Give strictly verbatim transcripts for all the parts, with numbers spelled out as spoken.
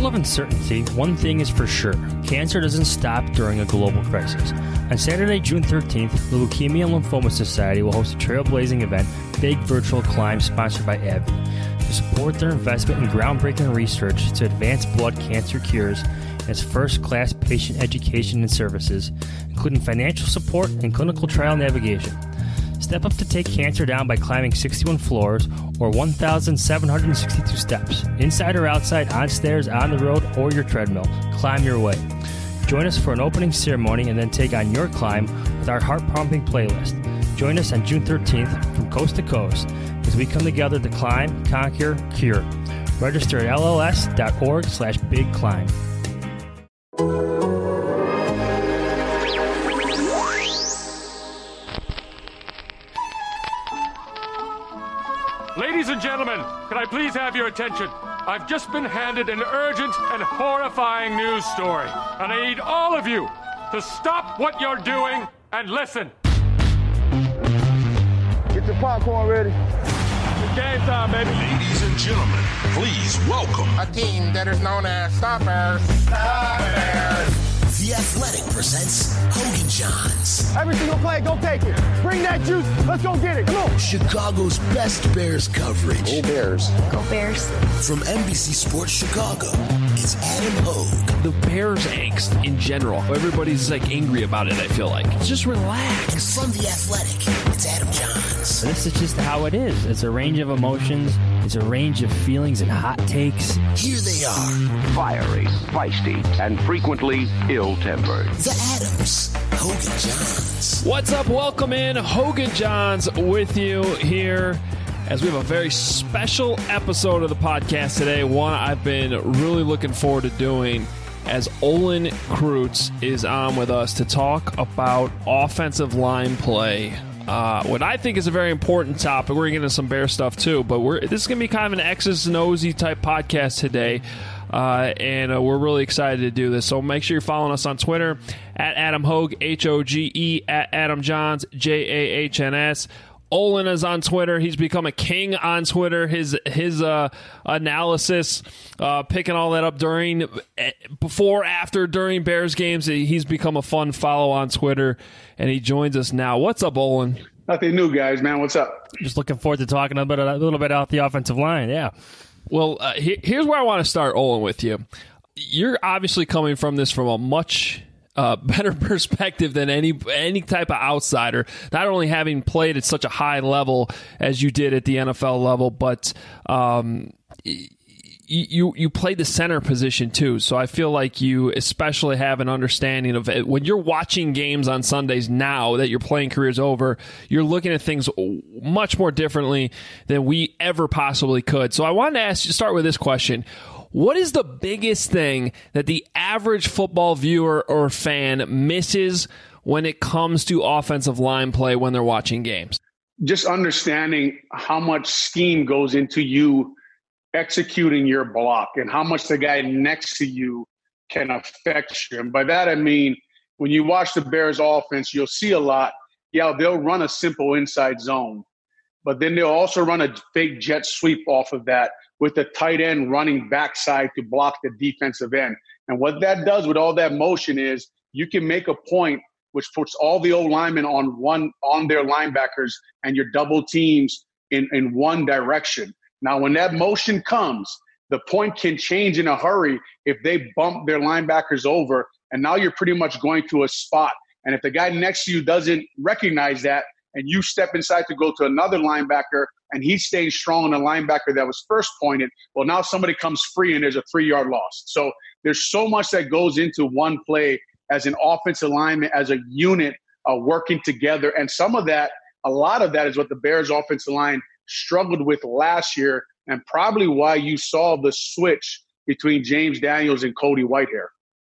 world of uncertainty, one thing is for sure. Cancer doesn't stop during a global crisis. On Saturday, June thirteenth, the Leukemia and Lymphoma Society will host a trailblazing event, Big Virtual Climb, sponsored by AbbVie, to support their investment in groundbreaking research to advance blood cancer cures and its first-class patient education and services, including financial support and clinical trial navigation. Step up to take cancer down by climbing sixty-one floors or one thousand seven hundred sixty-two steps. Inside or outside, on stairs, on the road, or your treadmill. Climb your way. Join us for an opening ceremony and then take on your climb with our heart-pumping playlist. Join us on June thirteenth from coast to coast as we come together to climb, conquer, cure. Register at lls.org slash big climb. Ladies and gentlemen, can I please have your attention? I've just been handed an urgent and horrifying news story, and I need all of you to stop what you're doing and listen. Get your popcorn ready. It's game time, baby. Ladies and gentlemen, please welcome a team that is known as Stoppers. Stoppers. The Athletic presents Hogan Johns. Every single play, go take it. Bring that juice. Let's go get it. Come on. Chicago's best Bears coverage. Go Bears. Go Bears. From N B C Sports Chicago, it's Adam Hogue. The Bears angst in general. Everybody's like angry about it, I feel like. Just relax. And from The Athletic, it's Adam Johns. This is just how it is. It's a range of emotions. It's a range of feelings and hot takes. Here they are. Fiery, feisty, and frequently ill-tempered. The Adams. Hogan Johns. What's up? Welcome in. Hogan Johns with you here as we have a very special episode of the podcast today. One I've been really looking forward to doing as Olin Kreutz is on with us to talk about offensive line play. Uh, what I think is a very important topic. We're going to get into some Bear stuff too, but we're this is going to be kind of an X's and O's type podcast today. Uh, and uh, we're really excited to do this. So make sure you're following us on Twitter at Adam Hogue, H O G E, at Adam Johns, J A H N S. Olin is on Twitter. He's become a king on Twitter. His his uh, analysis, uh, picking all that up during, before, after, during Bears games. He's become a fun follow on Twitter, and he joins us now. What's up, Olin? Nothing new, guys, man. What's up? Just looking forward to talking a, bit, a little bit about the offensive line, yeah. Well, uh, he, here's where I want to start, Olin, with you. You're obviously coming from this from a much uh, better perspective than any any type of outsider. Not only having played at such a high level as you did at the N F L level, but um, you you played the center position too. So I feel like you especially have an understanding of it. When you're watching games on Sundays now that your playing career's over, you're looking at things much more differently than we ever possibly could. So I wanted to ask you, start with this question. What is the biggest thing that the average football viewer or fan misses when it comes to offensive line play when they're watching games? Just understanding how much scheme goes into you executing your block and how much the guy next to you can affect you. And by that, I mean, when you watch the Bears offense, you'll see a lot. Yeah, they'll run a simple inside zone, but then they'll also run a fake jet sweep off of that with the tight end running backside to block the defensive end. And what that does with all that motion is you can make a point which puts all the old linemen on one on their linebackers and your double teams in, in one direction. Now, when that motion comes, the point can change in a hurry if they bump their linebackers over, and now you're pretty much going to a spot. And if the guy next to you doesn't recognize that and you step inside to go to another linebacker and he's staying strong on the linebacker that was first pointed, well, now somebody comes free and there's a three-yard loss. So there's so much that goes into one play as an offensive lineman, as a unit uh, working together. And some of that, a lot of that is what the Bears offensive line struggled with last year, and probably why you saw the switch between James Daniels and Cody Whitehair.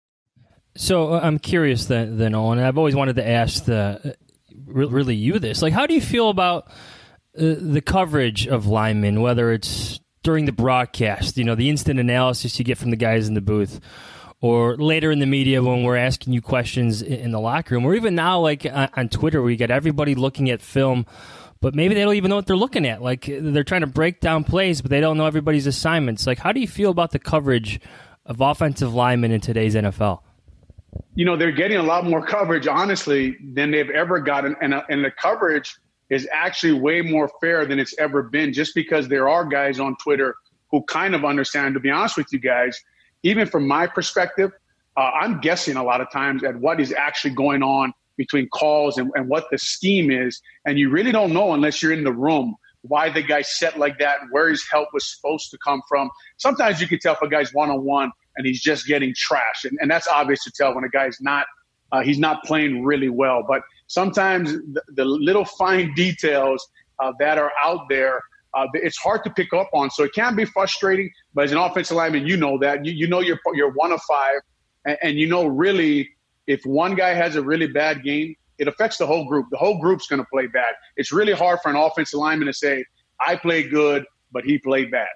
So uh, I'm curious then, then Owen, and I've always wanted to ask the really you this. Like, how do you feel about uh, the coverage of linemen, whether it's during the broadcast, you know, the instant analysis you get from the guys in the booth, or later in the media when we're asking you questions in the locker room, or even now, like on, on Twitter, where you get everybody looking at film, but maybe they don't even know what they're looking at. Like, they're trying to break down plays, but they don't know everybody's assignments. Like, how do you feel about the coverage of offensive linemen in today's N F L? You know, they're getting a lot more coverage, honestly, than they've ever gotten. And, uh, and the coverage is actually way more fair than it's ever been, just because there are guys on Twitter who kind of understand. To be honest with you guys, even from my perspective, uh, I'm guessing a lot of times at what is actually going on between calls and, and what the scheme is. And you really don't know unless you're in the room why the guy's set like that and where his help was supposed to come from. Sometimes you can tell if a guy's one-on-one and he's just getting trashed. And, and that's obvious to tell when a guy's not uh, he's not playing really well. But sometimes the, the little fine details uh, that are out there, uh, it's hard to pick up on. So it can be frustrating. But as an offensive lineman, you know that. You, you know you're, you're one of five. And, and you know really if one guy has a really bad game, it affects the whole group. The whole group's going to play bad. It's really hard for an offensive lineman to say, I played good, but he played bad.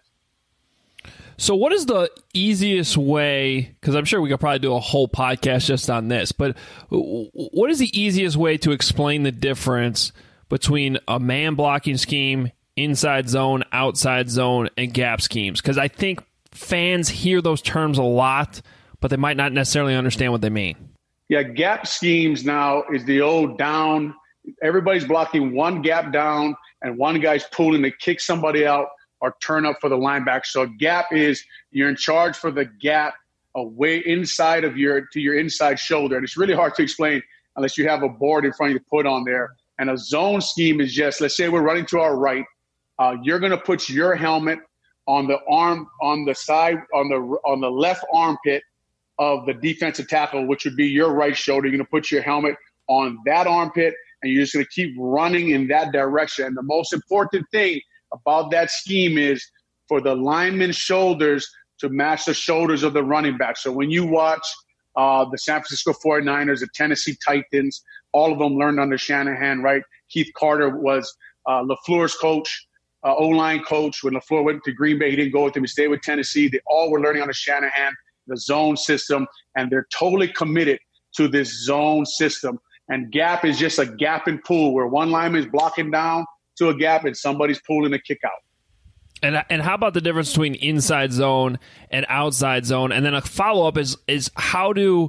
So what is the easiest way, because I'm sure we could probably do a whole podcast just on this, but what is the easiest way to explain the difference between a man blocking scheme, inside zone, outside zone, and gap schemes? Because I think fans hear those terms a lot, but they might not necessarily understand what they mean. Yeah, gap schemes now is the old down. Everybody's blocking one gap down, and one guy's pulling to kick somebody out or turn up for the linebacker. So a gap is you're in charge for the gap away inside of your to your inside shoulder. And it's really hard to explain unless you have a board in front of you to put on there. And a zone scheme is just, let's say we're running to our right. Uh, you're going to put your helmet on the arm, on the side, on the on the left armpit of the defensive tackle, which would be your right shoulder. You're going to put your helmet on that armpit, and you're just going to keep running in that direction. And the most important thing about that scheme is for the lineman's shoulders to match the shoulders of the running back. So when you watch uh, the San Francisco forty-niners, the Tennessee Titans, all of them learned under Shanahan, right? Keith Carter was uh, LaFleur's coach, uh, O-line coach. When LaFleur went to Green Bay, he didn't go with him. He stayed with Tennessee. They all were learning under Shanahan, the zone system, and they're totally committed to this zone system. And gap is just a gap and pull where one lineman is blocking down to a gap and somebody's pulling a kick out. And and how about the difference between inside zone and outside zone? And then a follow-up is is how do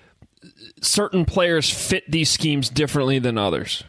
certain players fit these schemes differently than others?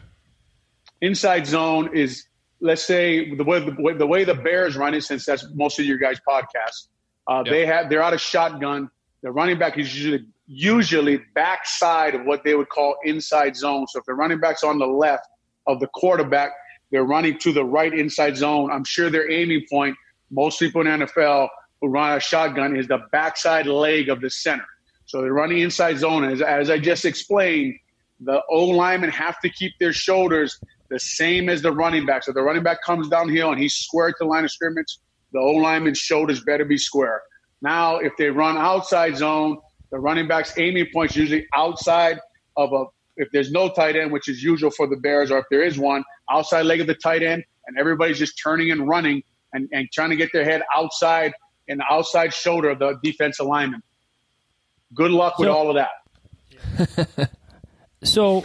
Inside zone is, let's say, the way the way the, way the Bears run it, since that's most of your guys' podcasts. Uh, yep. They have they're out of shotgun. The running back is usually usually backside of what they would call inside zone. So if the running back's on the left of the quarterback, they're running to the right inside zone. I'm sure their aiming point, most people in the N F L who run a shotgun, is the backside leg of the center. So they're running inside zone. As, as I just explained, the O-linemen have to keep their shoulders the same as the running back. So the running back comes downhill and he's square to the line of scrimmage, the O-lineman's shoulders better be square. Now, if they run outside zone, the running back's aiming point is usually outside of a – if there's no tight end, which is usual for the Bears, or if there is one, outside leg of the tight end, and everybody's just turning and running and, and trying to get their head outside in the outside shoulder of the defensive lineman. Good luck with so, all of that. So,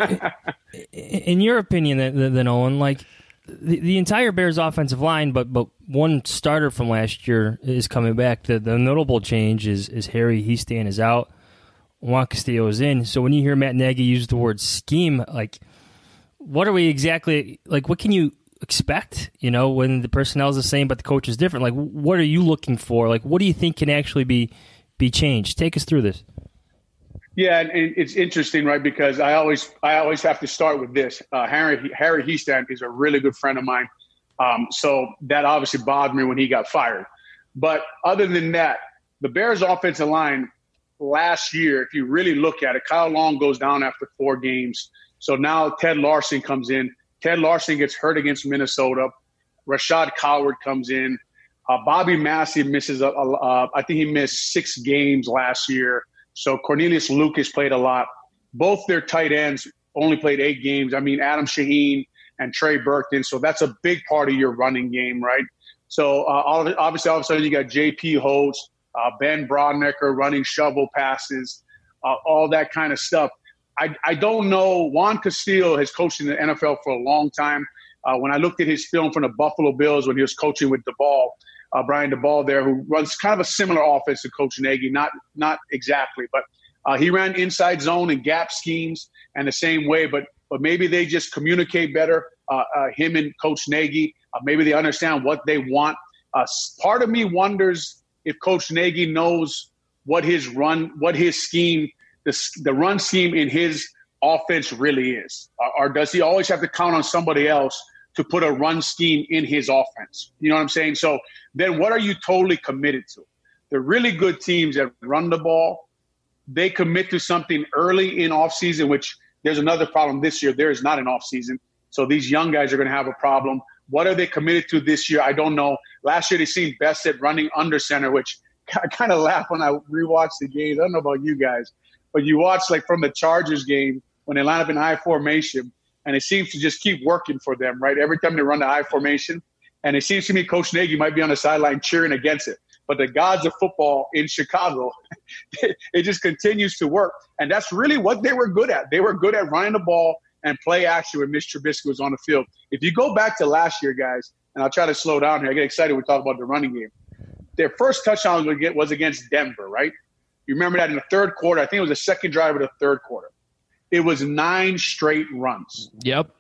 in your opinion, then, Owen, like the, the entire Bears offensive line, but but one starter from last year is coming back. The, the notable change is is Harry Hiestand is out. Juan Castillo is in. So when you hear Matt Nagy use the word scheme, like, what are we exactly, like, what can you expect, you know, when the personnel is the same but the coach is different? Like, what are you looking for? Like, what do you think can actually be be changed? Take us through this. Yeah, and it's interesting, right, because I always I always have to start with this. Uh, Harry, Harry Hiestand is a really good friend of mine, um, so that obviously bothered me when he got fired. But other than that, the Bears' offensive line last year, if you really look at it, Kyle Long goes down after four games. So now Ted Larson comes in. Ted Larson gets hurt against Minnesota. Rashad Coward comes in. Uh, Bobby Massey misses, a, a, a, I think he missed six games last year. So Cornelius Lucas played a lot. Both their tight ends only played eight games. I mean, Adam Shaheen and Trey Burton. So that's a big part of your running game, right? So uh, obviously, all of a sudden, you got J P Holtz, uh, Ben Brodnecker running shovel passes, uh, all that kind of stuff. I, I don't know. Juan Castillo has coached in the N F L for a long time. Uh, when I looked at his film from the Buffalo Bills when he was coaching with the ball, uh, Brian DeBall there, who runs kind of a similar offense to Coach Nagy, not not exactly, but uh, he ran inside zone and gap schemes and the same way, but but maybe they just communicate better, uh, uh, him and Coach Nagy. Uh, maybe they understand what they want. Uh, part of me wonders if Coach Nagy knows what his run, what his scheme, the, the run scheme in his offense really is, or, or does he always have to count on somebody else to put a run scheme in his offense? You know what I'm saying? So then what are you totally committed to? The really good teams that run the ball, they commit to something early in offseason, which there's another problem this year. There is not an offseason. So these young guys are going to have a problem. What are they committed to this year? I don't know. Last year they seemed best at running under center, which I kind of laugh when I rewatch the games. I don't know about you guys, but you watch like from the Chargers game when they line up in I formation, and it seems to just keep working for them, right? Every time they run the I formation, and it seems to me Coach Nagy might be on the sideline cheering against it. But the gods of football in Chicago, it just continues to work. And that's really what they were good at. They were good at running the ball and play action when Mitch Trubisky was on the field. If you go back to last year, guys, and I'll try to slow down here. I get excited when we talk about the running game. Their first touchdown was against Denver, right? You remember that in the third quarter. I think it was the second drive of the third quarter. It was nine straight runs. Yep.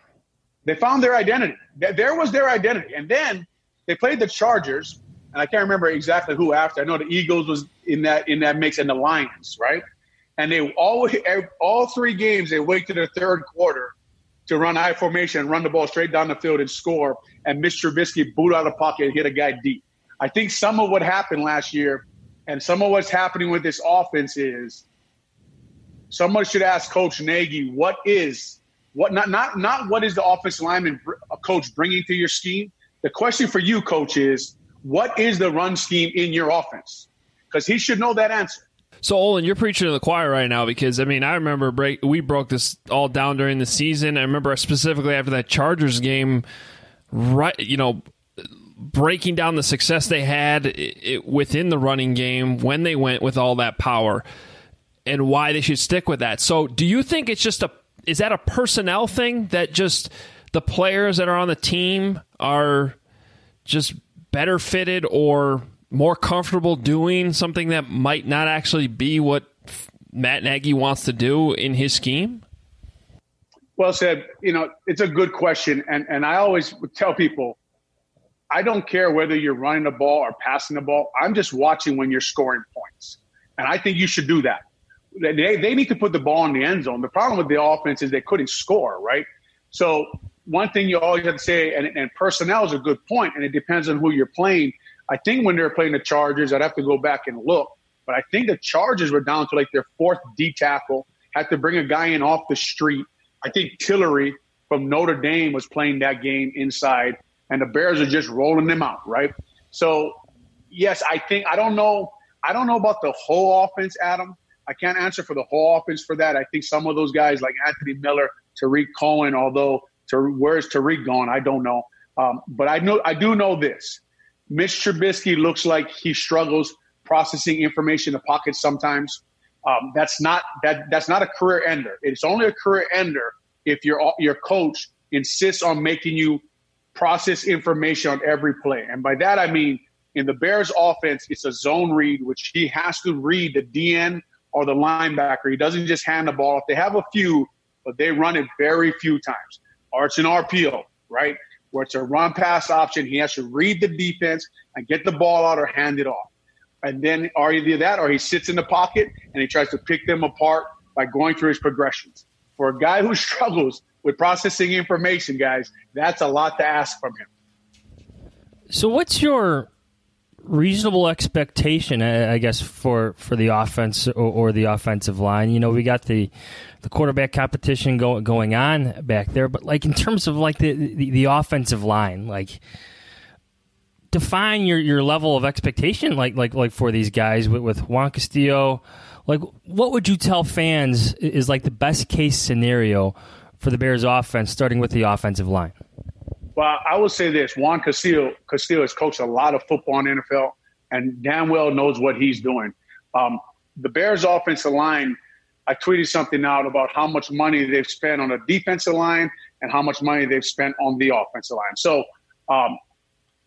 They found their identity. There was their identity. And then they played the Chargers, and I can't remember exactly who after. I know the Eagles was in that in that mix, and the Lions, right? And they always, all three games, they wait to the third quarter to run I formation and run the ball straight down the field and score. And Mitch Trubisky boot out of the pocket and hit a guy deep. I think some of what happened last year and some of what's happening with this offense is someone should ask Coach Nagy, what is what not not not what is the offensive lineman coach bringing to your scheme? The question for you, Coach, is what is the run scheme in your offense? Because he should know that answer. So, Olin, you're preaching to the choir right now because, I mean, I remember break, we broke this all down during the season. I remember specifically after that Chargers game, right, you know, breaking down the success they had it, within the running game when they went with all that power and why they should stick with that. So do you think it's just a – is that a personnel thing that just the players that are on the team are just better fitted or – more comfortable doing something that might not actually be what Matt Nagy wants to do in his scheme? Well said. You know, it's a good question. And and I always tell people, I don't care whether you're running the ball or passing the ball. I'm just watching when you're scoring points. And I think you should do that. They, they need to put the ball in the end zone. The problem with the offense is they couldn't score, right? So one thing you always have to say, and, and personnel is a good point, and it depends on who you're playing. I think when they were playing the Chargers, I'd have to go back and look, but I think the Chargers were down to like their fourth D tackle, had to bring a guy in off the street. I think Tillery from Notre Dame was playing that game inside, and the Bears are just rolling them out, right? So, yes, I think – I don't know I don't know about the whole offense, Adam. I can't answer for the whole offense for that. I think some of those guys like Anthony Miller, Tariq Cohen, although to, where's Tariq gone, I don't know. Um, but I know I do know this. Mitch Trubisky looks like he struggles processing information in the pocket sometimes. Um, that's not that that's not a career ender. It's only a career ender if your your coach insists on making you process information on every play. And by that I mean in the Bears offense, it's a zone read, which he has to read the D N or the linebacker. He doesn't just hand the ball. If they have a few, but they run it very few times. Or it's an R P O, right? Where it's a run-pass option. He has to read the defense and get the ball out or hand it off. And then or either that or he sits in the pocket and he tries to pick them apart by going through his progressions. For a guy who struggles with processing information, guys, that's a lot to ask from him. So what's your reasonable expectation, I guess, for, for the offense or, or the offensive line? You know, we got the the quarterback competition go, going on back there, but like in terms of like the, the, the offensive line, like define your, your level of expectation, like like like for these guys with, with Juan Castillo. Like, what would you tell fans is like the best case scenario for the Bears offense, starting with the offensive line? Well, I will say this. Juan Castillo, Castillo has coached a lot of football in the N F L and damn well knows what he's doing. Um, the Bears offensive line, I tweeted something out about how much money they've spent on the defensive line and how much money they've spent on the offensive line. So um,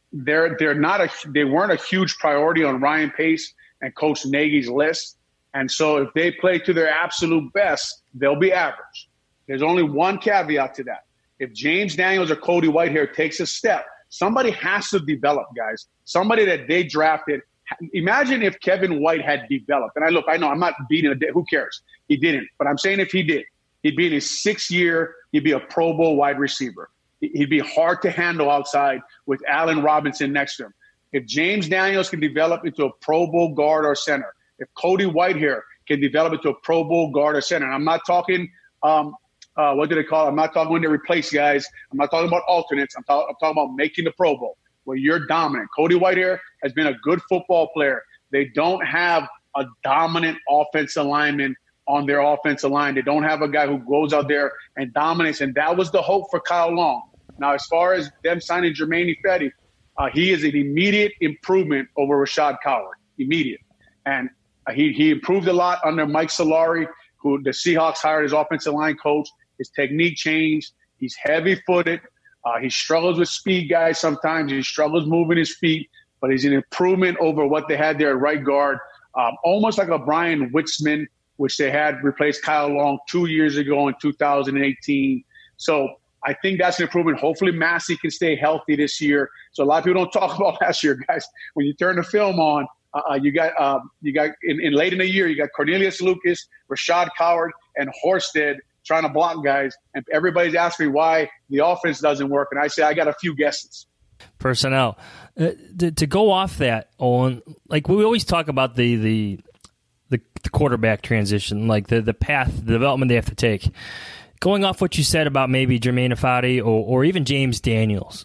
they're they're not a they weren't a huge priority on Ryan Pace and Coach Nagy's list. And so if they play to their absolute best, they'll be average. There's only one caveat to that. If James Daniels or Cody Whitehair takes a step, somebody has to develop, guys. Somebody that they drafted. Imagine if Kevin White had developed. And I look, I know I'm not beating a dead. Who cares? He didn't. But I'm saying if he did, he'd be in his sixth year. He'd be a Pro Bowl wide receiver. He'd be hard to handle outside with Allen Robinson next to him. If James Daniels can develop into a Pro Bowl guard or center, if Cody Whitehair can develop into a Pro Bowl guard or center, and I'm not talking, um, uh, what do they call it? I'm not talking when they replace guys. I'm not talking about alternates. I'm, talk- I'm talking about making the Pro Bowl where you're dominant. Cody Whitehair has been a good football player. They don't have a dominant offensive lineman on their offensive line. They don't have a guy who goes out there and dominates, and that was the hope for Kyle Long. Now, as far as them signing Germain Ifedi, uh, he is an immediate improvement over Rashad Coward, immediate. And uh, he, he improved a lot under Mike Solari, who the Seahawks hired as offensive line coach. His technique changed. He's heavy-footed. Uh, he struggles with speed guys sometimes. He struggles moving his feet, but he's an improvement over what they had there at right guard, um, almost like a Brian Witzman, which they had replaced Kyle Long two years ago in two thousand eighteen. So I think that's an improvement. Hopefully Massey can stay healthy this year. So a lot of people don't talk about last year, guys. When you turn the film on, uh, you got um, you got in, in late in the year, you got Cornelius Lucas, Rashad Coward, and Horsted trying to block guys. And everybody's asking me why the offense doesn't work. And I say, I got a few guesses. Personnel. Uh, to, to go off that, Owen, like we always talk about the the the, the quarterback transition, like the, the path, the development they have to take. Going off what you said about maybe Germain Ifedi or, or even James Daniels,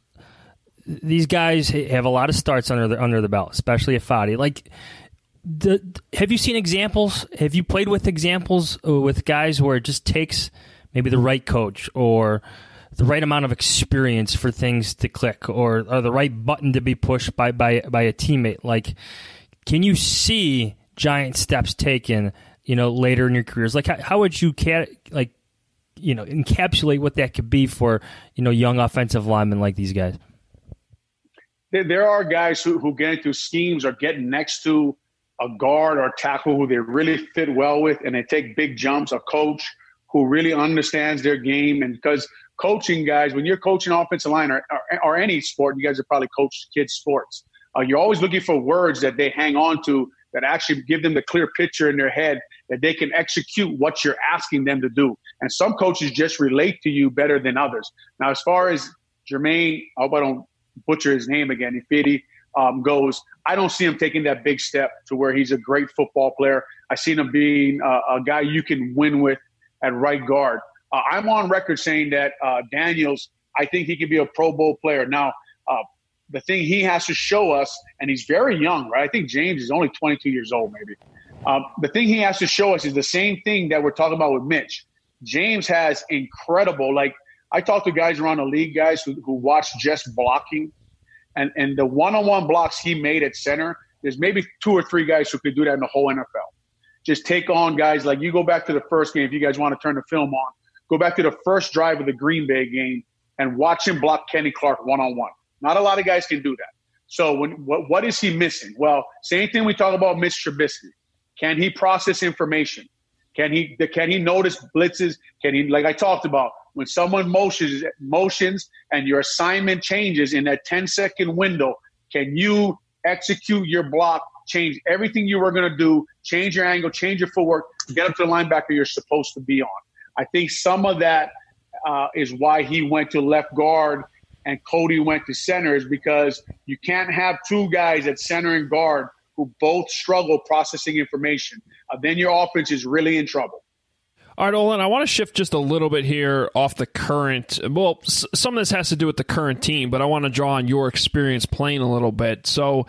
these guys have a lot of starts under the under the belt, especially Ifedi. Like, the, have you seen examples? Have you played with examples with guys where it just takes maybe the right coach or the right amount of experience for things to click, or, or the right button to be pushed by, by by a teammate? Like, can you see giant steps taken, you know, later in your careers? Like, how, how would you cat like? you know, encapsulate what that could be for, you know, young offensive linemen like these guys? There, there are guys who, who get into schemes or get next to a guard or tackle who they really fit well with, and they take big jumps. A coach who really understands their game. And because coaching guys, when you're coaching offensive line or, or, or any sport, you guys have probably coached kids sports. Uh, you're always looking for words that they hang on to that actually give them the clear picture in their head that they can execute what you're asking them to do. And some coaches just relate to you better than others. Now, as far as Germain, I hope I don't butcher his name again, Ifedi um, goes, I don't see him taking that big step to where he's a great football player. I see him being uh, a guy you can win with at right guard. Uh, I'm on record saying that uh, Daniels, I think he could be a Pro Bowl player. Now, uh, the thing he has to show us, and he's very young, right? I think James is only twenty-two years old, maybe. Um, the thing he has to show us is the same thing that we're talking about with Mitch. James has incredible, like I talk to guys around the league, guys who, who watch just blocking, and, and the one-on-one blocks he made at center, there's maybe two or three guys who could do that in the whole N F L. Just take on guys like, you go back to the first game, if you guys want to turn the film on, go back to the first drive of the Green Bay game and watch him block Kenny Clark one-on-one. Not a lot of guys can do that. So when, what, what is he missing? Well, same thing we talk about Mitch Trubisky. Can he process information? Can he can he notice blitzes? Can he, like I talked about, when someone motions motions and your assignment changes in that ten-second window, can you execute your block, change everything you were going to do, change your angle, change your footwork, get up to the linebacker you're supposed to be on? I think some of that uh, is why he went to left guard and Cody went to center, is because you can't have two guys at center and guard who both struggle processing information. Uh, then your offense is really in trouble. All right, Olin, I want to shift just a little bit here off the current. Well, s- some of this has to do with the current team, but I want to draw on your experience playing a little bit. So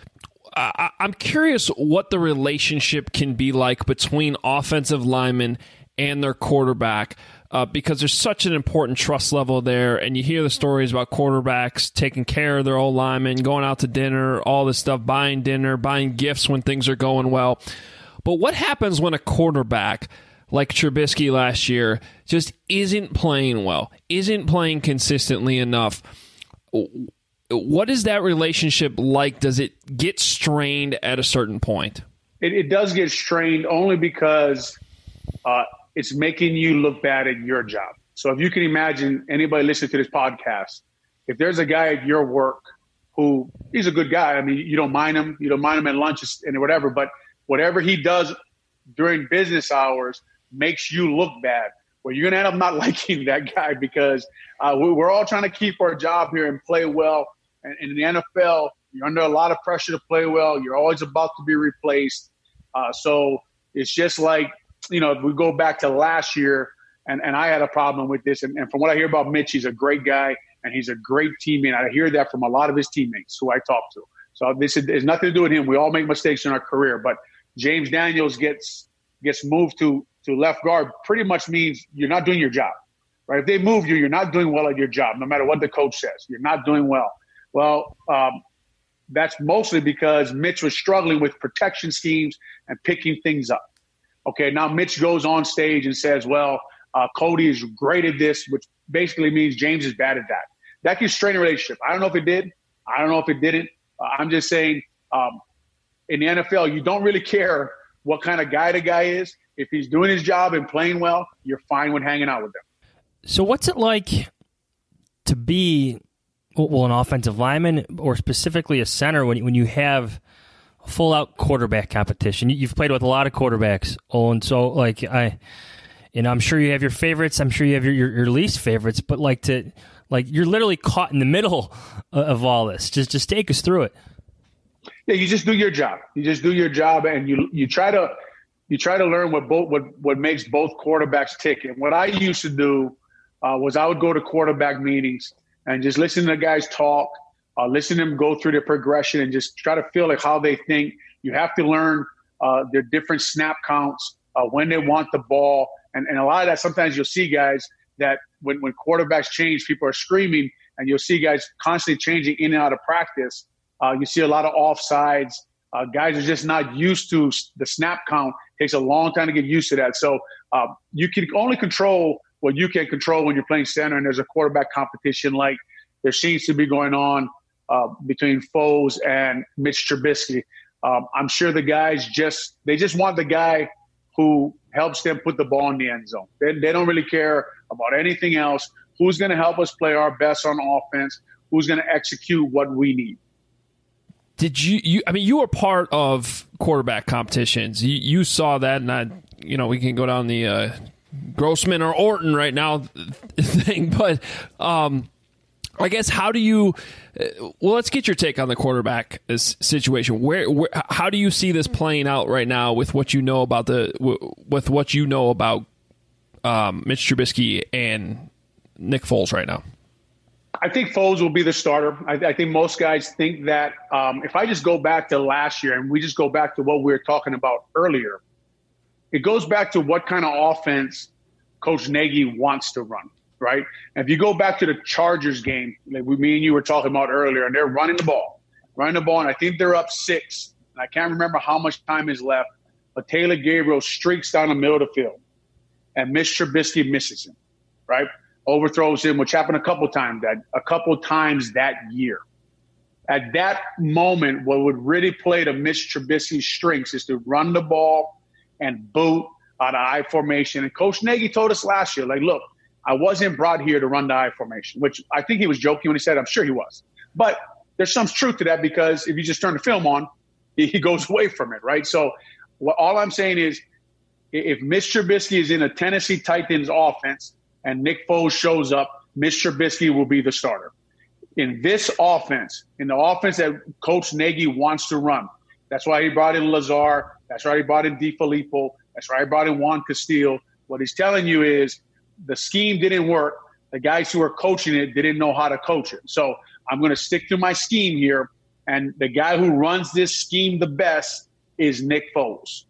I- I'm curious what the relationship can be like between offensive linemen and their quarterback, uh, because there's such an important trust level there, and you hear the stories about quarterbacks taking care of their old linemen, going out to dinner, all this stuff, buying dinner, buying gifts when things are going well. But what happens when a quarterback like Trubisky last year just isn't playing well, isn't playing consistently enough? what is that relationship like? Does it get strained at a certain point? It, it does get strained only because uh, it's making you look bad at your job. So if you can imagine anybody listening to this podcast, if there's a guy at your work who he's a good guy, I mean, you don't mind him, you don't mind him at lunch and whatever, but whatever he does during business hours makes you look bad. Well, you're going to end up not liking that guy because uh, we're all trying to keep our job here and play well. And in the N F L, you're under a lot of pressure to play well. You're always about to be replaced. Uh, so it's just like, you know, if we go back to last year, and, and I had a problem with this. And, and from what I hear about Mitch, he's a great guy, and he's a great teammate. I hear that from a lot of his teammates who I talk to. So this is, has nothing to do with him. We all make mistakes in our career. But James Daniels gets gets moved to, to left guard pretty much means you're not doing your job, right? If they move you, you're not doing well at your job, no matter what the coach says. You're not doing well. Well, um, that's mostly because Mitch was struggling with protection schemes and picking things up. Okay, now Mitch goes on stage and says, well, uh, Cody is great at this, which basically means James is bad at that. That can strain a relationship. I don't know if it did. I don't know if it didn't. Uh, I'm just saying um, in the N F L, you don't really care what kind of guy the guy is. If he's doing his job and playing well, you're fine with hanging out with him. So what's it like to be, well, an offensive lineman or specifically a center when, when you have a full-out quarterback competition? You've played with a lot of quarterbacks, oh, and so, like, I, you know, I'm sure you have your favorites. I'm sure you have your, your, your least favorites, but, like, to, like, you're literally caught in the middle of all this. Just, just take us through it. Yeah, you just do your job. You just do your job, and you you try to you try to learn what both what what makes both quarterbacks tick. And what I used to do uh, was I would go to quarterback meetings and just listen to the guys talk, uh, listen to them go through their progression, and just try to feel like how they think. You have to learn uh, their different snap counts, uh, when they want the ball, and and a lot of that. Sometimes you'll see guys that when when quarterbacks change, people are screaming, and you'll see guys constantly changing in and out of practice. Uh, you see a lot of offsides. Uh, guys are just not used to the snap count. It takes a long time to get used to that. So uh, you can only control what you can control when you're playing center, and there's a quarterback competition like there seems to be going on uh, between Foles and Mitch Trubisky. Um, I'm sure the guys just – they just want the guy who helps them put the ball in the end zone. They, they don't really care about anything else. Who's going to help us play our best on offense? Who's going to execute what we need? Did you, you, I mean, you were part of quarterback competitions. You, you saw that, and I, you know, we can go down the uh, Grossman or Orton right now thing, but um, I guess how do you, uh, well, let's get your take on the quarterback situation. Where, where, how do you see this playing out right now with what you know about the, with what you know about um, Mitch Trubisky and Nick Foles right now? I think Foles will be the starter. I, I think most guys think that um, if I just go back to last year and we just go back to what we were talking about earlier, it goes back to what kind of offense Coach Nagy wants to run, right? And if you go back to the Chargers game, like we, me and you were talking about earlier, and they're running the ball, running the ball, and I think they're up six. And I can't remember how much time is left, but Taylor Gabriel streaks down the middle of the field, and Mitch Trubisky misses him, right? Overthrows him, which happened a couple times that a couple times that year. At that moment, what would really play to Mitch Trubisky's strengths is to run the ball and boot out of I formation. And Coach Nagy told us last year, like, look, I wasn't brought here to run the I formation, which I think he was joking when he said, I'm sure he was. But there's some truth to that because if you just turn the film on, he goes away from it, right? So what, all I'm saying is if Mitch Trubisky is in a Tennessee Titans offense, and Nick Foles shows up, Mitch Trubisky will be the starter. In this offense, in the offense that Coach Nagy wants to run, that's why he brought in Lazard. That's why he brought in DeFilippo. That's why he brought in Juan Castillo. What he's telling you is the scheme didn't work. The guys who are coaching it didn't know how to coach it. So I'm going to stick to my scheme here, and the guy who runs this scheme the best is Nick Foles.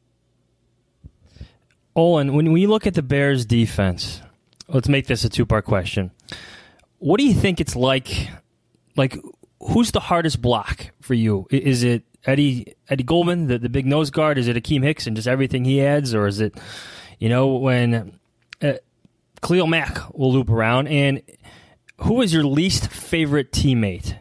Olin, when we look at the Bears' defense – let's make this a two-part question. What do you think it's like? Like, who's the hardest block for you? Is it Eddie Eddie Goldman, the, the big nose guard? Is it Akeem Hicks and just everything he adds? Or is it, you know, when uh, Khalil Mack will loop around? And who is your least favorite teammate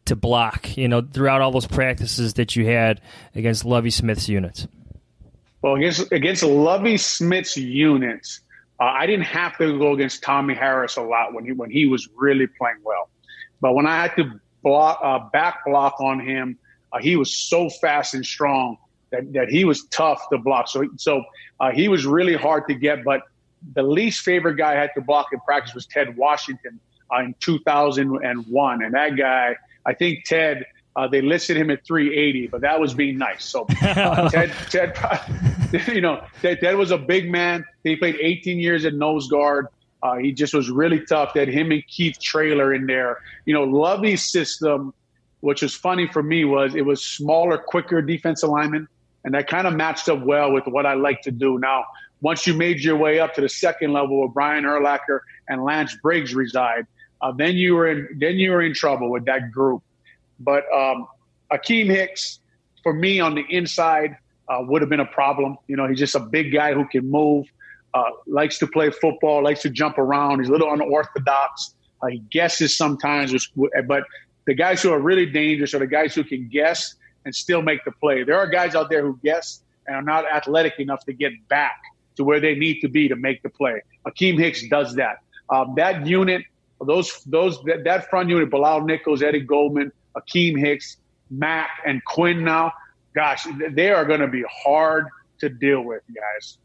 to block, you know, throughout all those practices that you had against Lovie Smith's units? Well, against against Lovie Smith's units, uh, I didn't have to go against Tommy Harris a lot when he when he was really playing well. But when I had to block, uh, back block on him, uh, he was so fast and strong that, that he was tough to block. So so uh, he was really hard to get. But the least favorite guy I had to block in practice was Ted Washington uh, in two thousand one, and that guy, I think Ted. Uh, they listed him at three eighty, but that was being nice. So uh, Ted, Ted, you know, Ted, Ted was a big man. He played eighteen years at nose guard. Uh, he just was really tough. They had him and Keith Traylor in there. You know, Lovie's system, which was funny for me, was it was smaller, quicker defensive linemen, and that kind of matched up well with what I like to do. Now, once you made your way up to the second level where Brian Urlacher and Lance Briggs reside, uh, then you were in then you were in trouble with that group. But um, Akeem Hicks, for me on the inside, uh, would have been a problem. You know, he's just a big guy who can move, uh, likes to play football, likes to jump around. He's a little unorthodox. Uh, he guesses sometimes. But the guys who are really dangerous are the guys who can guess and still make the play. There are guys out there who guess and are not athletic enough to get back to where they need to be to make the play. Akeem Hicks does that. Um, that unit, those those that, that front unit, Bilal Nichols, Eddie Goldman, Akeem Hicks, Mack, and Quinn now, gosh, they are going to be hard to deal with, guys.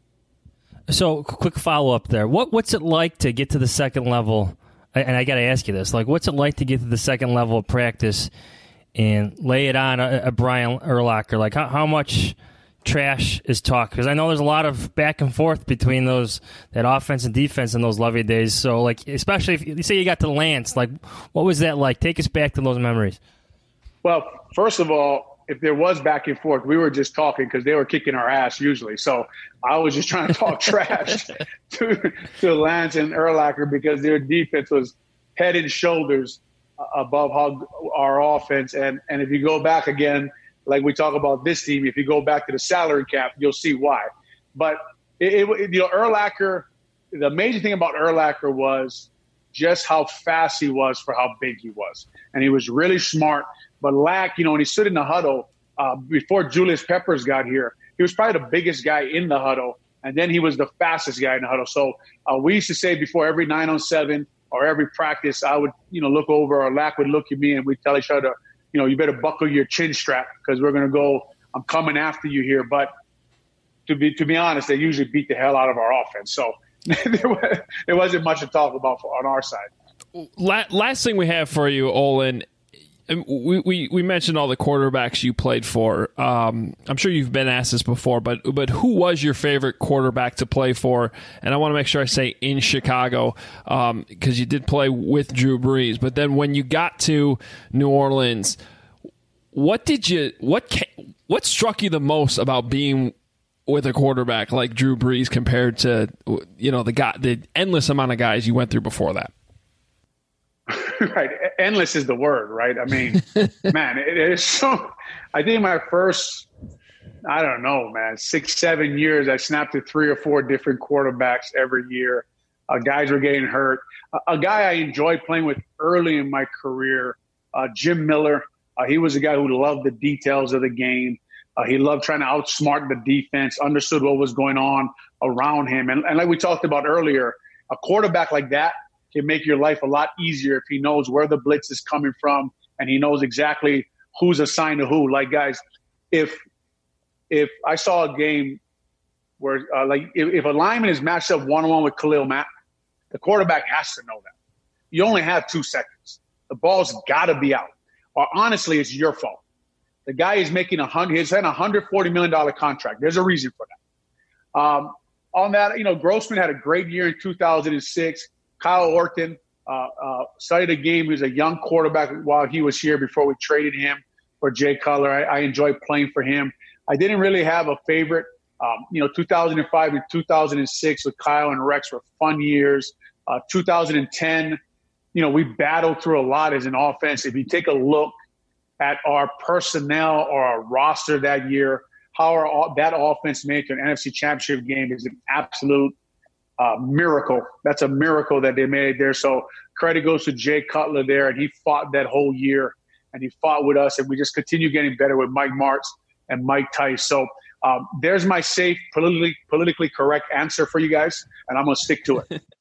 So, quick follow-up there. What What's it like to get to the second level? And I got to ask you this. Like, what's it like to get to the second level of practice and lay it on a, a Brian Urlacher? Like, how, how much trash is talked? Because I know there's a lot of back and forth between those that offense and defense in those Lovie days. So, like, especially if you say you got to Lance, like, what was that like? Take us back to those memories. Well, first of all, if there was back and forth, we were just talking because they were kicking our ass usually. So I was just trying to talk trash to, to Lance and Urlacher because their defense was head and shoulders above how our offense. And, and if you go back again, like we talk about this team, if you go back to the salary cap, you'll see why. But, it, it, you know, Urlacher, the amazing thing about Urlacher was just how fast he was for how big he was. And he was really smart. But Lack, you know, when he stood in the huddle, uh, before Julius Peppers got here, he was probably the biggest guy in the huddle. And then he was the fastest guy in the huddle. So uh, we used to say before every nine on seven or every practice, I would, you know, look over, or Lack would look at me, and we'd tell each other, you know, you better buckle your chin strap because we're going to go, I'm coming after you here. But to be to be honest, they usually beat the hell out of our offense. So there, was, there wasn't much to talk about for, on our side. Last thing we have for you, Olin, we, we, we mentioned all the quarterbacks you played for. Um, I'm sure you've been asked this before, but but who was your favorite quarterback to play for? And I want to make sure I say in Chicago because um, you did play with Drew Brees. But then when you got to New Orleans, what did you what what struck you the most about being with a quarterback like Drew Brees compared to, you know, the guy, the endless amount of guys you went through before that? Right. Endless is the word, right? I mean, man, it is so – I think my first, I don't know, man, six, seven years, I snapped to three or four different quarterbacks every year. Uh, guys were getting hurt. Uh, a guy I enjoyed playing with early in my career, uh, Jim Miller. Uh, he was a guy who loved the details of the game. Uh, he loved trying to outsmart the defense, understood what was going on around him. And, and like we talked about earlier, a quarterback like that can make your life a lot easier if he knows where the blitz is coming from and he knows exactly who's assigned to who. Like, guys, if if I saw a game where, uh, like, if, if a lineman is matched up one-on-one with Khalil Mack, the quarterback has to know that. You only have two seconds. The ball's got to be out. Or honestly, it's your fault. The guy is making a hundred. He's had a one hundred forty million dollars contract. There's a reason for that. Um, on that, you know, Grossman had a great year in two thousand six. Kyle Orton uh, uh, started a game. He was a young quarterback while he was here before we traded him for Jay Cutler. I, I enjoyed playing for him. I didn't really have a favorite. Um, you know, two thousand five and two thousand six with Kyle and Rex were fun years. Uh, two thousand ten, you know, we battled through a lot as an offense. If you take a look at our personnel or our roster that year, how our, that offense made to an N F C Championship game is an absolute uh, miracle. That's a miracle that they made there. So credit goes to Jay Cutler there, and he fought that whole year. and he fought with us, and we just continue getting better with Mike Martz and Mike Tice. So um, there's my safe, politically politically correct answer for you guys, and I'm going to stick to it.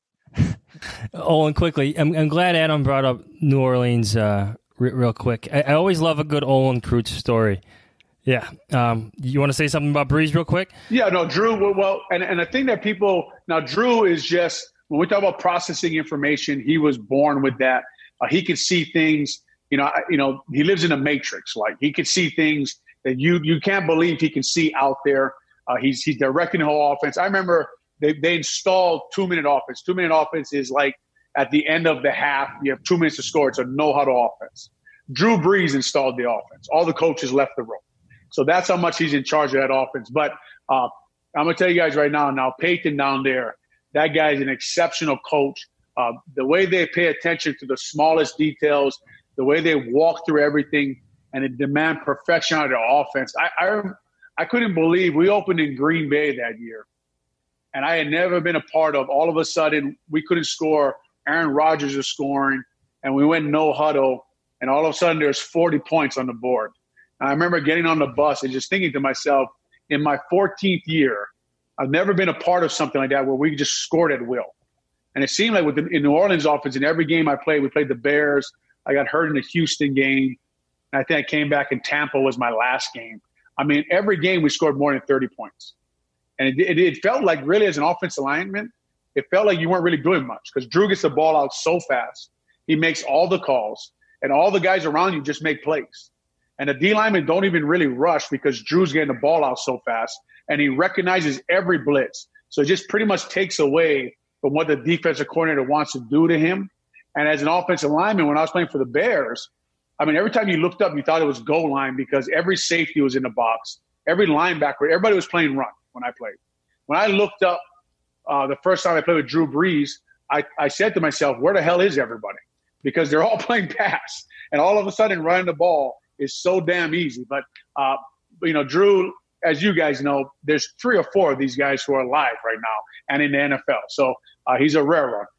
Oh, and quickly, I'm, I'm glad Adam brought up New Orleans uh, r- real quick. I, I always love a good Olin Kreutz story. Yeah. Um, you want to say something about Brees real quick? Yeah, no, Drew, well, and, and I think that people – now, Drew is just – when we talk about processing information, he was born with that. Uh, he could see things – you know, I, you know, he lives in a matrix. Like, he could see things that you you can't believe he can see out there. Uh, he's he's directing the whole offense. I remember they, they installed two-minute offense. Two-minute offense is like at the end of the half, you have two minutes to score. It's a no-huddle offense. Drew Brees installed the offense. All the coaches left the room. So that's how much he's in charge of that offense. But uh, I'm going to tell you guys right now, now Peyton down there, that guy's an exceptional coach. Uh, the way they pay attention to the smallest details, the way they walk through everything, and they demand perfection out of their offense. I, I I couldn't believe we opened in Green Bay that year, and I had never been a part of. All of a sudden, we couldn't score. Aaron Rodgers was scoring, and we went no huddle, and all of a sudden there's forty points on the board. And I remember getting on the bus and just thinking to myself, in my fourteenth year, I've never been a part of something like that where we just scored at will. And it seemed like with the, in New Orleans offense, in every game I played, we played the Bears. I got hurt in the Houston game. And I think I came back in Tampa was my last game. I mean, every game we scored more than thirty points. And it, it, it felt like really as an offensive lineman, it felt like you weren't really doing much because Drew gets the ball out so fast. He makes all the calls, and all the guys around you just make plays. And the D linemen don't even really rush because Drew's getting the ball out so fast, and he recognizes every blitz. So it just pretty much takes away from what the defensive coordinator wants to do to him. And as an offensive lineman, when I was playing for the Bears, I mean, every time you looked up, you thought it was goal line because every safety was in the box. Every linebacker, everybody was playing run when I played. When I looked up uh, the first time I played with Drew Brees, I, I said to myself, where the hell is everybody? Because they're all playing pass. And all of a sudden, running the ball is so damn easy. But, uh, you know, Drew, as you guys know, there's three or four of these guys who are alive right now and in the N F L. So uh, he's a rare one.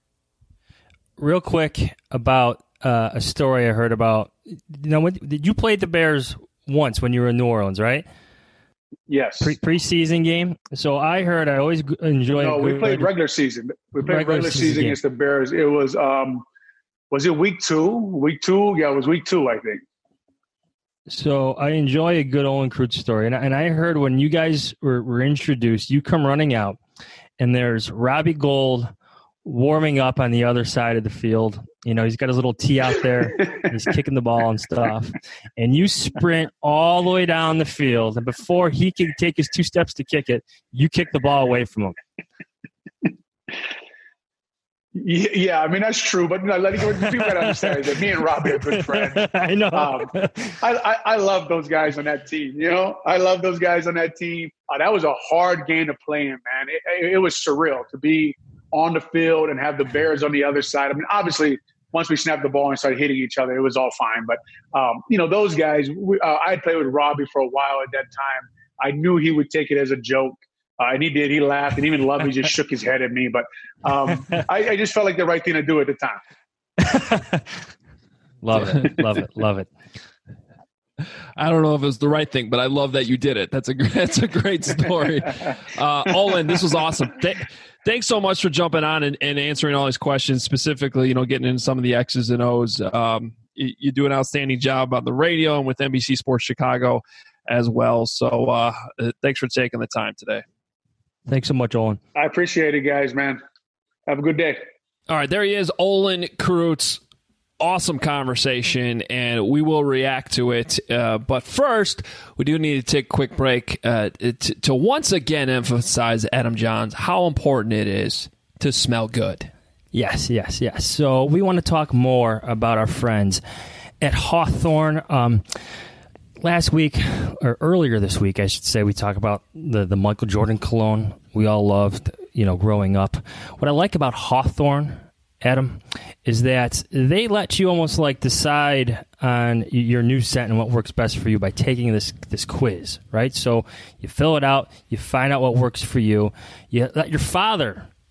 Real quick about uh, a story I heard about. You know, when, did you play the Bears once when you were in New Orleans, right? Yes. Pre- preseason game. So I heard I always enjoy. No, we played regular season. We played regular, regular season, season against the Bears. It was um, was it week two? Week two? Yeah, it was week two, I think. So I enjoy a good Olin Kreutz story, and and I heard when you guys were, were introduced, you come running out, and there's Robbie Gould warming up on the other side of the field. You know, he's got his little tee out there. He's kicking the ball and stuff. And you sprint all the way down the field. And before he can take his two steps to kick it, you kick the ball away from him. Yeah, I mean, that's true. But no, let me go. People got to understand that me and Robbie are good friends. I know. Um, I, I, I love those guys on that team. You know, I love those guys on that team. Uh, that was a hard game to play in, man. It, it, it was surreal to be on the field and have the Bears on the other side. I mean, obviously, once we snapped the ball and started hitting each other, it was all fine. But, um, you know, those guys, we, uh, I had played with Robbie for a while at that time. I knew he would take it as a joke. Uh, and he did. He laughed. And even Lovey just shook his head at me. But um, I, I just felt like the right thing to do at the time. Love it. Love it. Love it. I don't know if it was the right thing, but I love that you did it. That's a that's a great story. Uh, Olin, this was awesome. Th- thanks so much for jumping on and, and answering all these questions, specifically, you know, getting into some of the X's and O's. Um, you, you do an outstanding job on the radio and with N B C Sports Chicago as well. So uh, thanks for taking the time today. Thanks so much, Olin. I appreciate it, guys, man. Have a good day. All right, there he is, Olin Kreutz. Awesome conversation, and we will react to it. Uh, but first, we do need to take a quick break uh, to, to once again emphasize, Adam Johns, how important it is to smell good. Yes, yes, yes. So we want to talk more about our friends at Hawthorne. Um, last week, or earlier this week, I should say, we talked about the, the Michael Jordan cologne we all loved, you know, growing up. What I like about Hawthorne, Adam, is that they let you almost like decide on your new scent and what works best for you by taking this this quiz, right? So you fill it out, you find out what works for you. You let your father,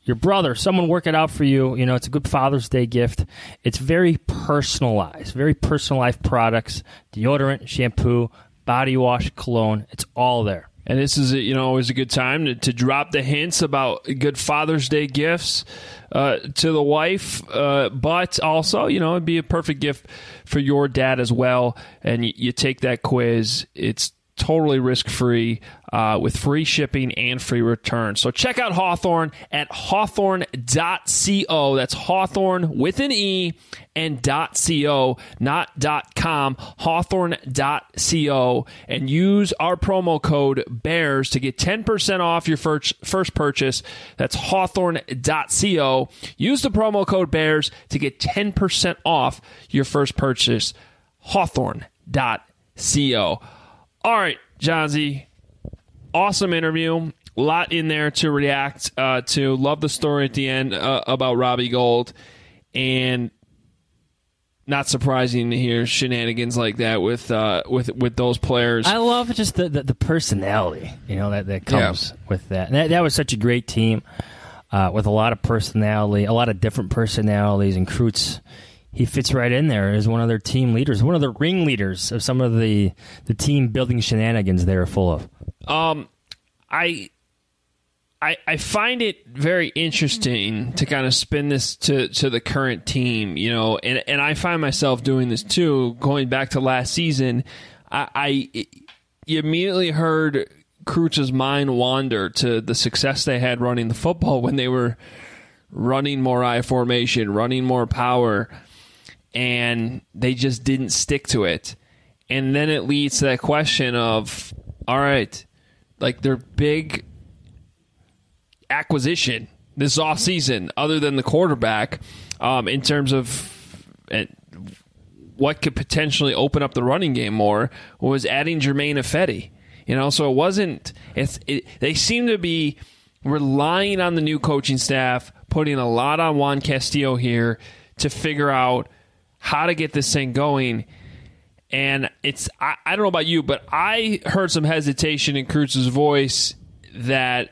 your brother, someone work it out for you. You know, it's a good Father's Day gift. It's very personalized, very personalized products, deodorant, shampoo, body wash, cologne. It's all there. And this is, you know, always a good time to, to drop the hints about good Father's Day gifts uh, to the wife. Uh, but also, you know, it'd be a perfect gift for your dad as well. And you, you take that quiz. It's totally risk-free uh, with free shipping and free return. So check out Hawthorne at hawthorne dot co. That's Hawthorne with an E and .co, not .com, hawthorne dot co. And use our promo code BEARS to get ten percent off your first, first purchase. That's hawthorne dot co. Use the promo code BEARS to get ten percent off your first purchase. hawthorne dot co. All right, Johnsy, awesome interview. A lot in there to react uh, to. Love the story at the end uh, about Robbie Gould. And not surprising to hear shenanigans like that with uh, with with those players. I love just the, the, the personality, you know, that, that comes yeah. with that. And that. That was such a great team uh, with a lot of personality, a lot of different personalities. And Kreutz, he fits right in there as one of their team leaders, one of the ringleaders of some of the, the team-building shenanigans they are full of. Um, I, I I find it very interesting to kind of spin this to, to the current team, you know, and, and I find myself doing this too, going back to last season. I, I you immediately heard Kreutz's mind wander to the success they had running the football when they were running more I formation, running more power, and they just didn't stick to it. And then it leads to that question of, all right, like their big acquisition this offseason, other than the quarterback, um, in terms of uh, what could potentially open up the running game more, was adding Germain Ifedi. You know, so it wasn't, it's, it, they seem to be relying on the new coaching staff, putting a lot on Juan Castillo here to figure out how to get this thing going. And it's, I, I don't know about you, but I heard some hesitation in Kreutz's voice that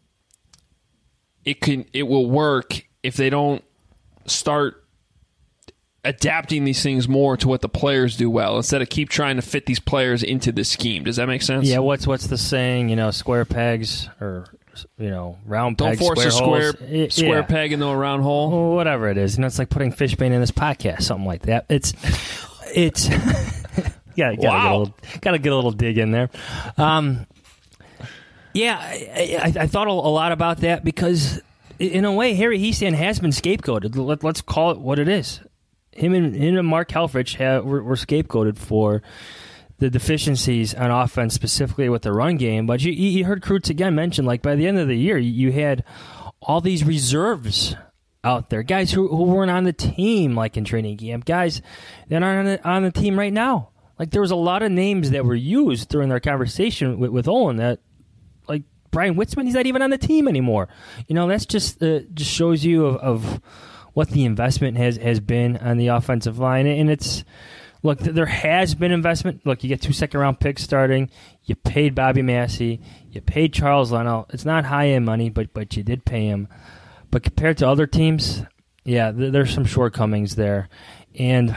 it can, it will work if they don't start adapting these things more to what the players do well, instead of keep trying to fit these players into the scheme. Does that make sense? Yeah, what's what's the saying, you know, square pegs or, you know, round Don't pegs, force square a square, holes. square yeah. peg into a round hole. Well, whatever it is. You know, it's like putting fish bait in this podcast, something like that. It's, it's, yeah, gotta, wow. get a little, gotta get a little dig in there. Um, yeah, I, I, I thought a lot about that because, in a way, Harry Hiestand has been scapegoated. Let, let's call it what it is. Him and, him and Mark Helfrich have, were, were scapegoated for the deficiencies on offense, specifically with the run game. But you, you heard Kreutz again mention, like, by the end of the year, you had all these reserves out there, guys who, who weren't on the team, like in training camp, guys that aren't on the, on the team right now. Like, there was a lot of names that were used during their conversation with, with Olin that, like, Brian Witzman, he's not even on the team anymore. You know, that's just uh, just shows you of, of what the investment has, has been on the offensive line. And it's, look, there has been investment. Look, you get two second-round picks starting. You paid Bobby Massey. You paid Charles Leno. It's not high-end money, but but you did pay him. But compared to other teams, yeah, th- there's some shortcomings there. And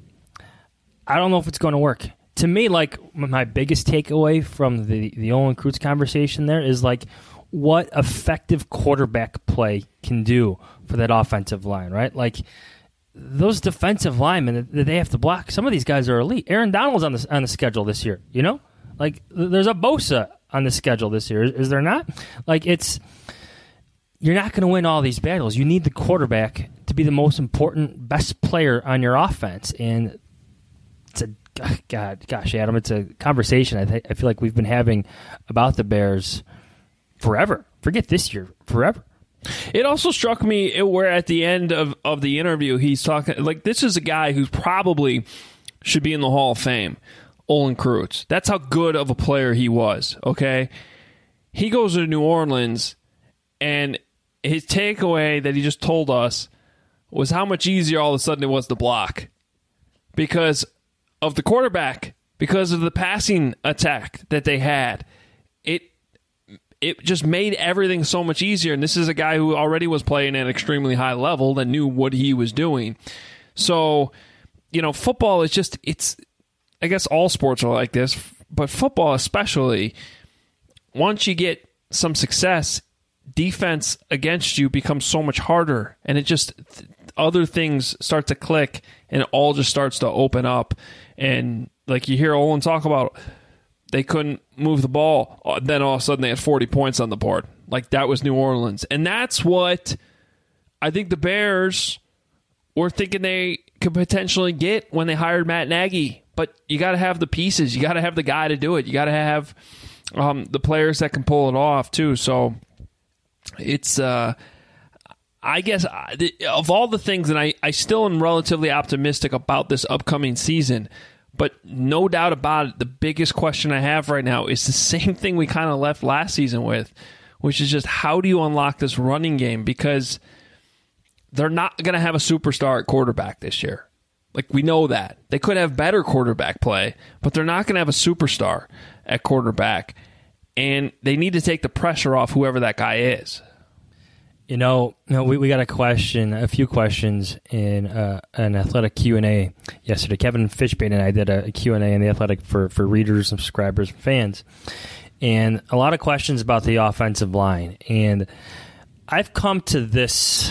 I don't know if it's going to work. To me, like, my biggest takeaway from the, the Olin Kreutz conversation there is, like, what effective quarterback play can do for that offensive line, right? Like, those defensive linemen that they have to block, some of these guys are elite. Aaron Donald's on the, on the schedule this year, you know? Like, there's a Bosa on the schedule this year. Is, is there not? Like, it's, you're not going to win all these battles. You need the quarterback to be the most important, best player on your offense. And it's a, God, gosh, Adam, it's a conversation I, th- I feel like we've been having about the Bears forever. Forget this year, forever. It also struck me where at the end of, of the interview, he's talking, like, this is a guy who probably should be in the Hall of Fame, Olin Kreutz. That's how good of a player he was, okay? He goes to New Orleans, and his takeaway that he just told us was how much easier all of a sudden it was to block. Because of the quarterback, because of the passing attack that they had. It it just made everything so much easier. And this is a guy who already was playing at an extremely high level that knew what he was doing. So, you know, football is just, it's, I guess all sports are like this, but football especially, once you get some success, defense against you becomes so much harder. And it just, other things start to click and it all just starts to open up. And like you hear Olin talk about, they couldn't move the ball. Then all of a sudden they had forty points on the board. Like that was New Orleans. And that's what I think the Bears were thinking they could potentially get when they hired Matt Nagy. But you got to have the pieces. You got to have the guy to do it. You got to have um, the players that can pull it off too. So it's, uh, I guess, of all the things, and I, I still am relatively optimistic about this upcoming season, but no doubt about it, the biggest question I have right now is the same thing we kind of left last season with, which is just how do you unlock this running game? Because they're not going to have a superstar at quarterback this year. Like, we know that. They could have better quarterback play, but they're not going to have a superstar at quarterback. And they need to take the pressure off whoever that guy is. You know, you know we, we got a question, a few questions in uh, an Athletic Q and A yesterday. Kevin Fishbane and I did a Q and A in the Athletic for, for readers and subscribers and fans. And a lot of questions about the offensive line. And I've come to this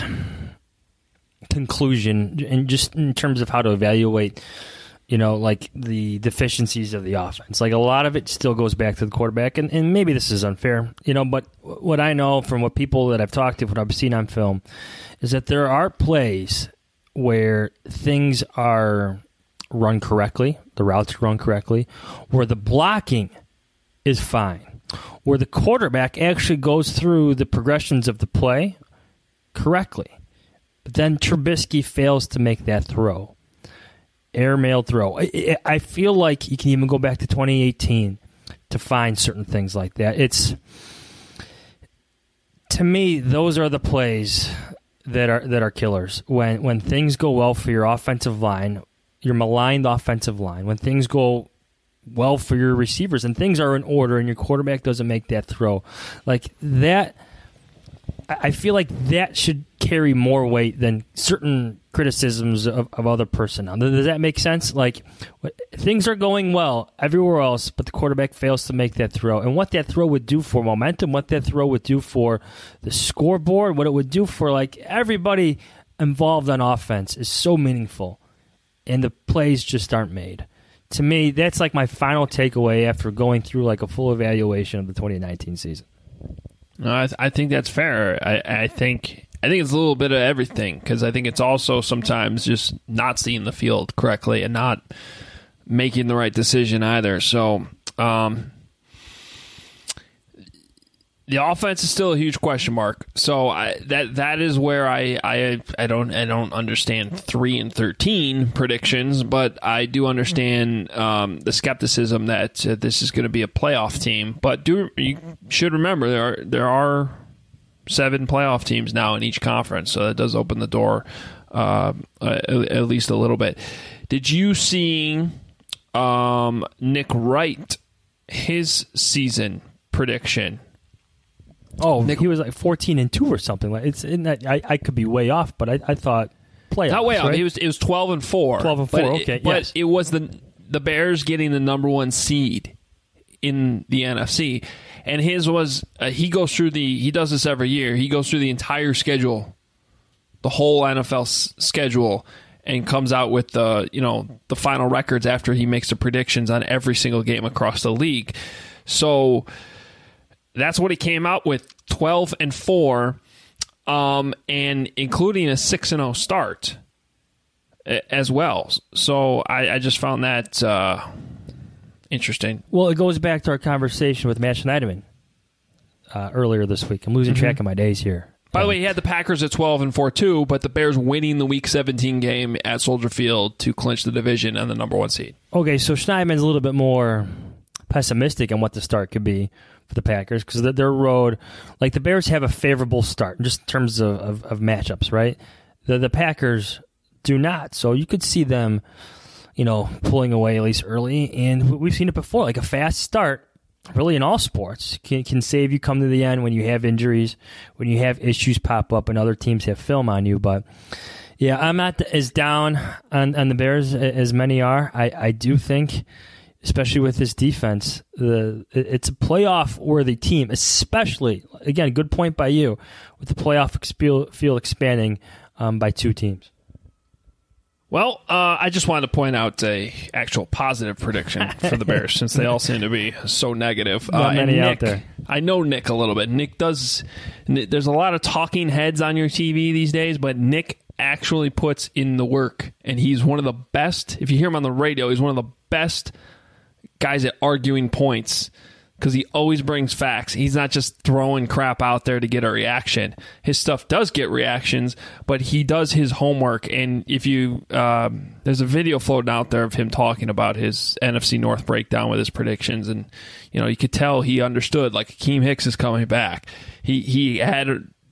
conclusion, and just in terms of how to evaluate, you know, like the deficiencies of the offense. Like a lot of it still goes back to the quarterback, and, and maybe this is unfair, you know, but what I know from what people that I've talked to, what I've seen on film, is that there are plays where things are run correctly, the routes run correctly, where the blocking is fine, where the quarterback actually goes through the progressions of the play correctly. But then Trubisky fails to make that throw. Airmail throw. I, I feel like you can even go back to twenty eighteen to find certain things like that. It's, to me, those are the plays that are that are killers. When when things go well for your offensive line, your maligned offensive line, when things go well for your receivers and things are in order and your quarterback doesn't make that throw, like that, I feel like that should carry more weight than certain criticisms of, of other personnel. Does that make sense? Like, things are going well everywhere else, but the quarterback fails to make that throw. And what that throw would do for momentum, what that throw would do for the scoreboard, what it would do for, like, everybody involved on offense is so meaningful. And the plays just aren't made. To me, that's like my final takeaway after going through like a full evaluation of the twenty nineteen season. No, I, th- I think that's fair. I, I think I think it's a little bit of everything, because I think it's also sometimes just not seeing the field correctly and not making the right decision either. So um, the offense is still a huge question mark. So I, that that is where I, I I don't I don't understand three and thirteen predictions, but I do understand um, the skepticism that uh, this is going to be a playoff team. But do you should remember there are there are seven playoff teams now in each conference, so that does open the door uh, at, at least a little bit. Did you see um, Nick Wright, his season prediction? Oh, Nick, he was like fourteen and two or something. Like it's in that. I, I could be way off, but I, I thought playoffs. Not way off. Right? He was it was twelve and four. Twelve and four. But okay, it, but yes. it was the the Bears getting the number one seed in the N F C, and his was uh, he goes through the he does this every year. He goes through the entire schedule, the whole N F L s- schedule, and comes out with the you know the final records after he makes the predictions on every single game across the league. So that's what he came out with, twelve and four, um, and including a six and oh start as well. So I, I just found that uh, interesting. Well, it goes back to our conversation with Matt Schneiderman uh, earlier this week. I'm losing mm-hmm. track of my days here. By the way, he had the Packers at twelve and four too, but the Bears winning the Week seventeen game at Soldier Field to clinch the division and the number one seed. Okay, so Schneiderman's a little bit more pessimistic on what the start could be for the Packers, because their road, like the Bears have a favorable start just in terms of, of, of matchups, right? The the Packers do not. So you could see them, you know, pulling away at least early, and we've seen it before, like a fast start really in all sports, can, can save you come to the end when you have injuries, when you have issues pop up and other teams have film on you. But yeah, I'm not as down on, on the Bears as many are. I, I do think, especially with this defense, the it's a playoff-worthy team, especially, again, good point by you, with the playoff field expanding um, by two teams. Well, uh, I just wanted to point out a actual positive prediction for the Bears, since they all seem to be so negative. Not uh, many Nick, out there. I know Nick a little bit. Nick does. There's a lot of talking heads on your T V these days, but Nick actually puts in the work, and he's one of the best. If you hear him on the radio, he's one of the best guys at arguing points, because he always brings facts. He's not just throwing crap out there to get a reaction. His stuff does get reactions, but he does his homework. And if you, um, there's a video floating out there of him talking about his N F C North breakdown with his predictions, and you know you could tell he understood. Like, Akeem Hicks is coming back. He he had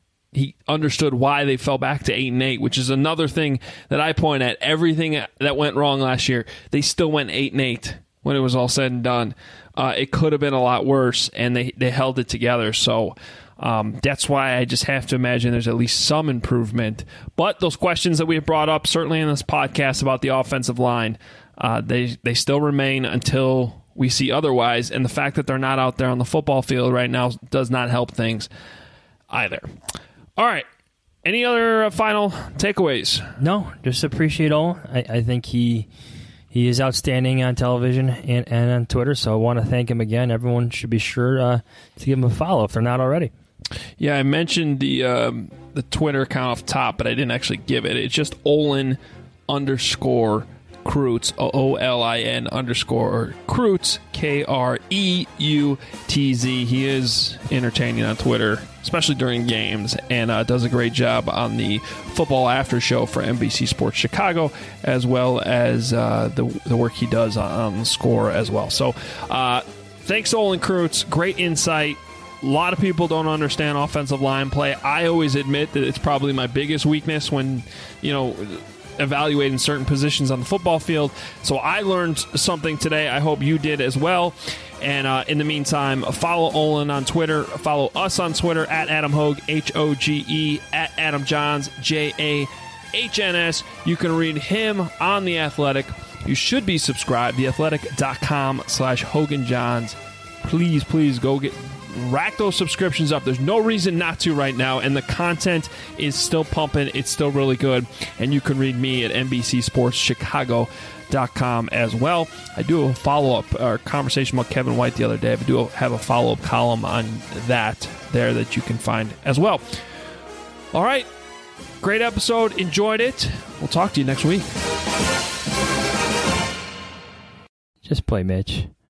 he understood why they fell back to eight and eight, which is another thing that I point at. Everything that went wrong last year, they still went eight and eight when it was all said and done. Uh, it could have been a lot worse, and they, they held it together. So um, that's why I just have to imagine there's at least some improvement. But those questions that we have brought up, certainly in this podcast about the offensive line, uh, they they still remain until we see otherwise. And the fact that they're not out there on the football field right now does not help things either. All right. Any other uh, final takeaways? No, just appreciate all. I, I think he... He is outstanding on television and, and on Twitter, so I want to thank him again. Everyone should be sure uh, to give him a follow if they're not already. Yeah, I mentioned the um, the Twitter account off top, but I didn't actually give it. It's just Olin underscore Kreutz, O O L I N underscore Kreutz, K R E U T Z. He is entertaining on Twitter, especially during games, and uh, does a great job on the football after show for N B C Sports Chicago, as well as uh, the, the work he does on, on the score as well. So uh, thanks, Olin Kreutz. Great insight. A lot of people don't understand offensive line play. I always admit that it's probably my biggest weakness when, you know, evaluating certain positions on the football field. So I learned something today. I hope you did as well. And uh, in the meantime, follow Olin on Twitter. Follow us on Twitter at Adam Hoge, H O G E, at Adam Johns, J A H N S. You can read him on The Athletic. You should be subscribed, theathletic.com slash Hogan Johns. Please, please go get rack those subscriptions up. There's no reason not to right now, and the content is still pumping. It's still really good, and you can read me at N B C Sports Chicago dot com as well. I do a follow-up or conversation about Kevin White the other day. I do have a follow-up column on that there that you can find as well. All right. Great episode. Enjoyed it. We'll talk to you next week. Just play, Mitch.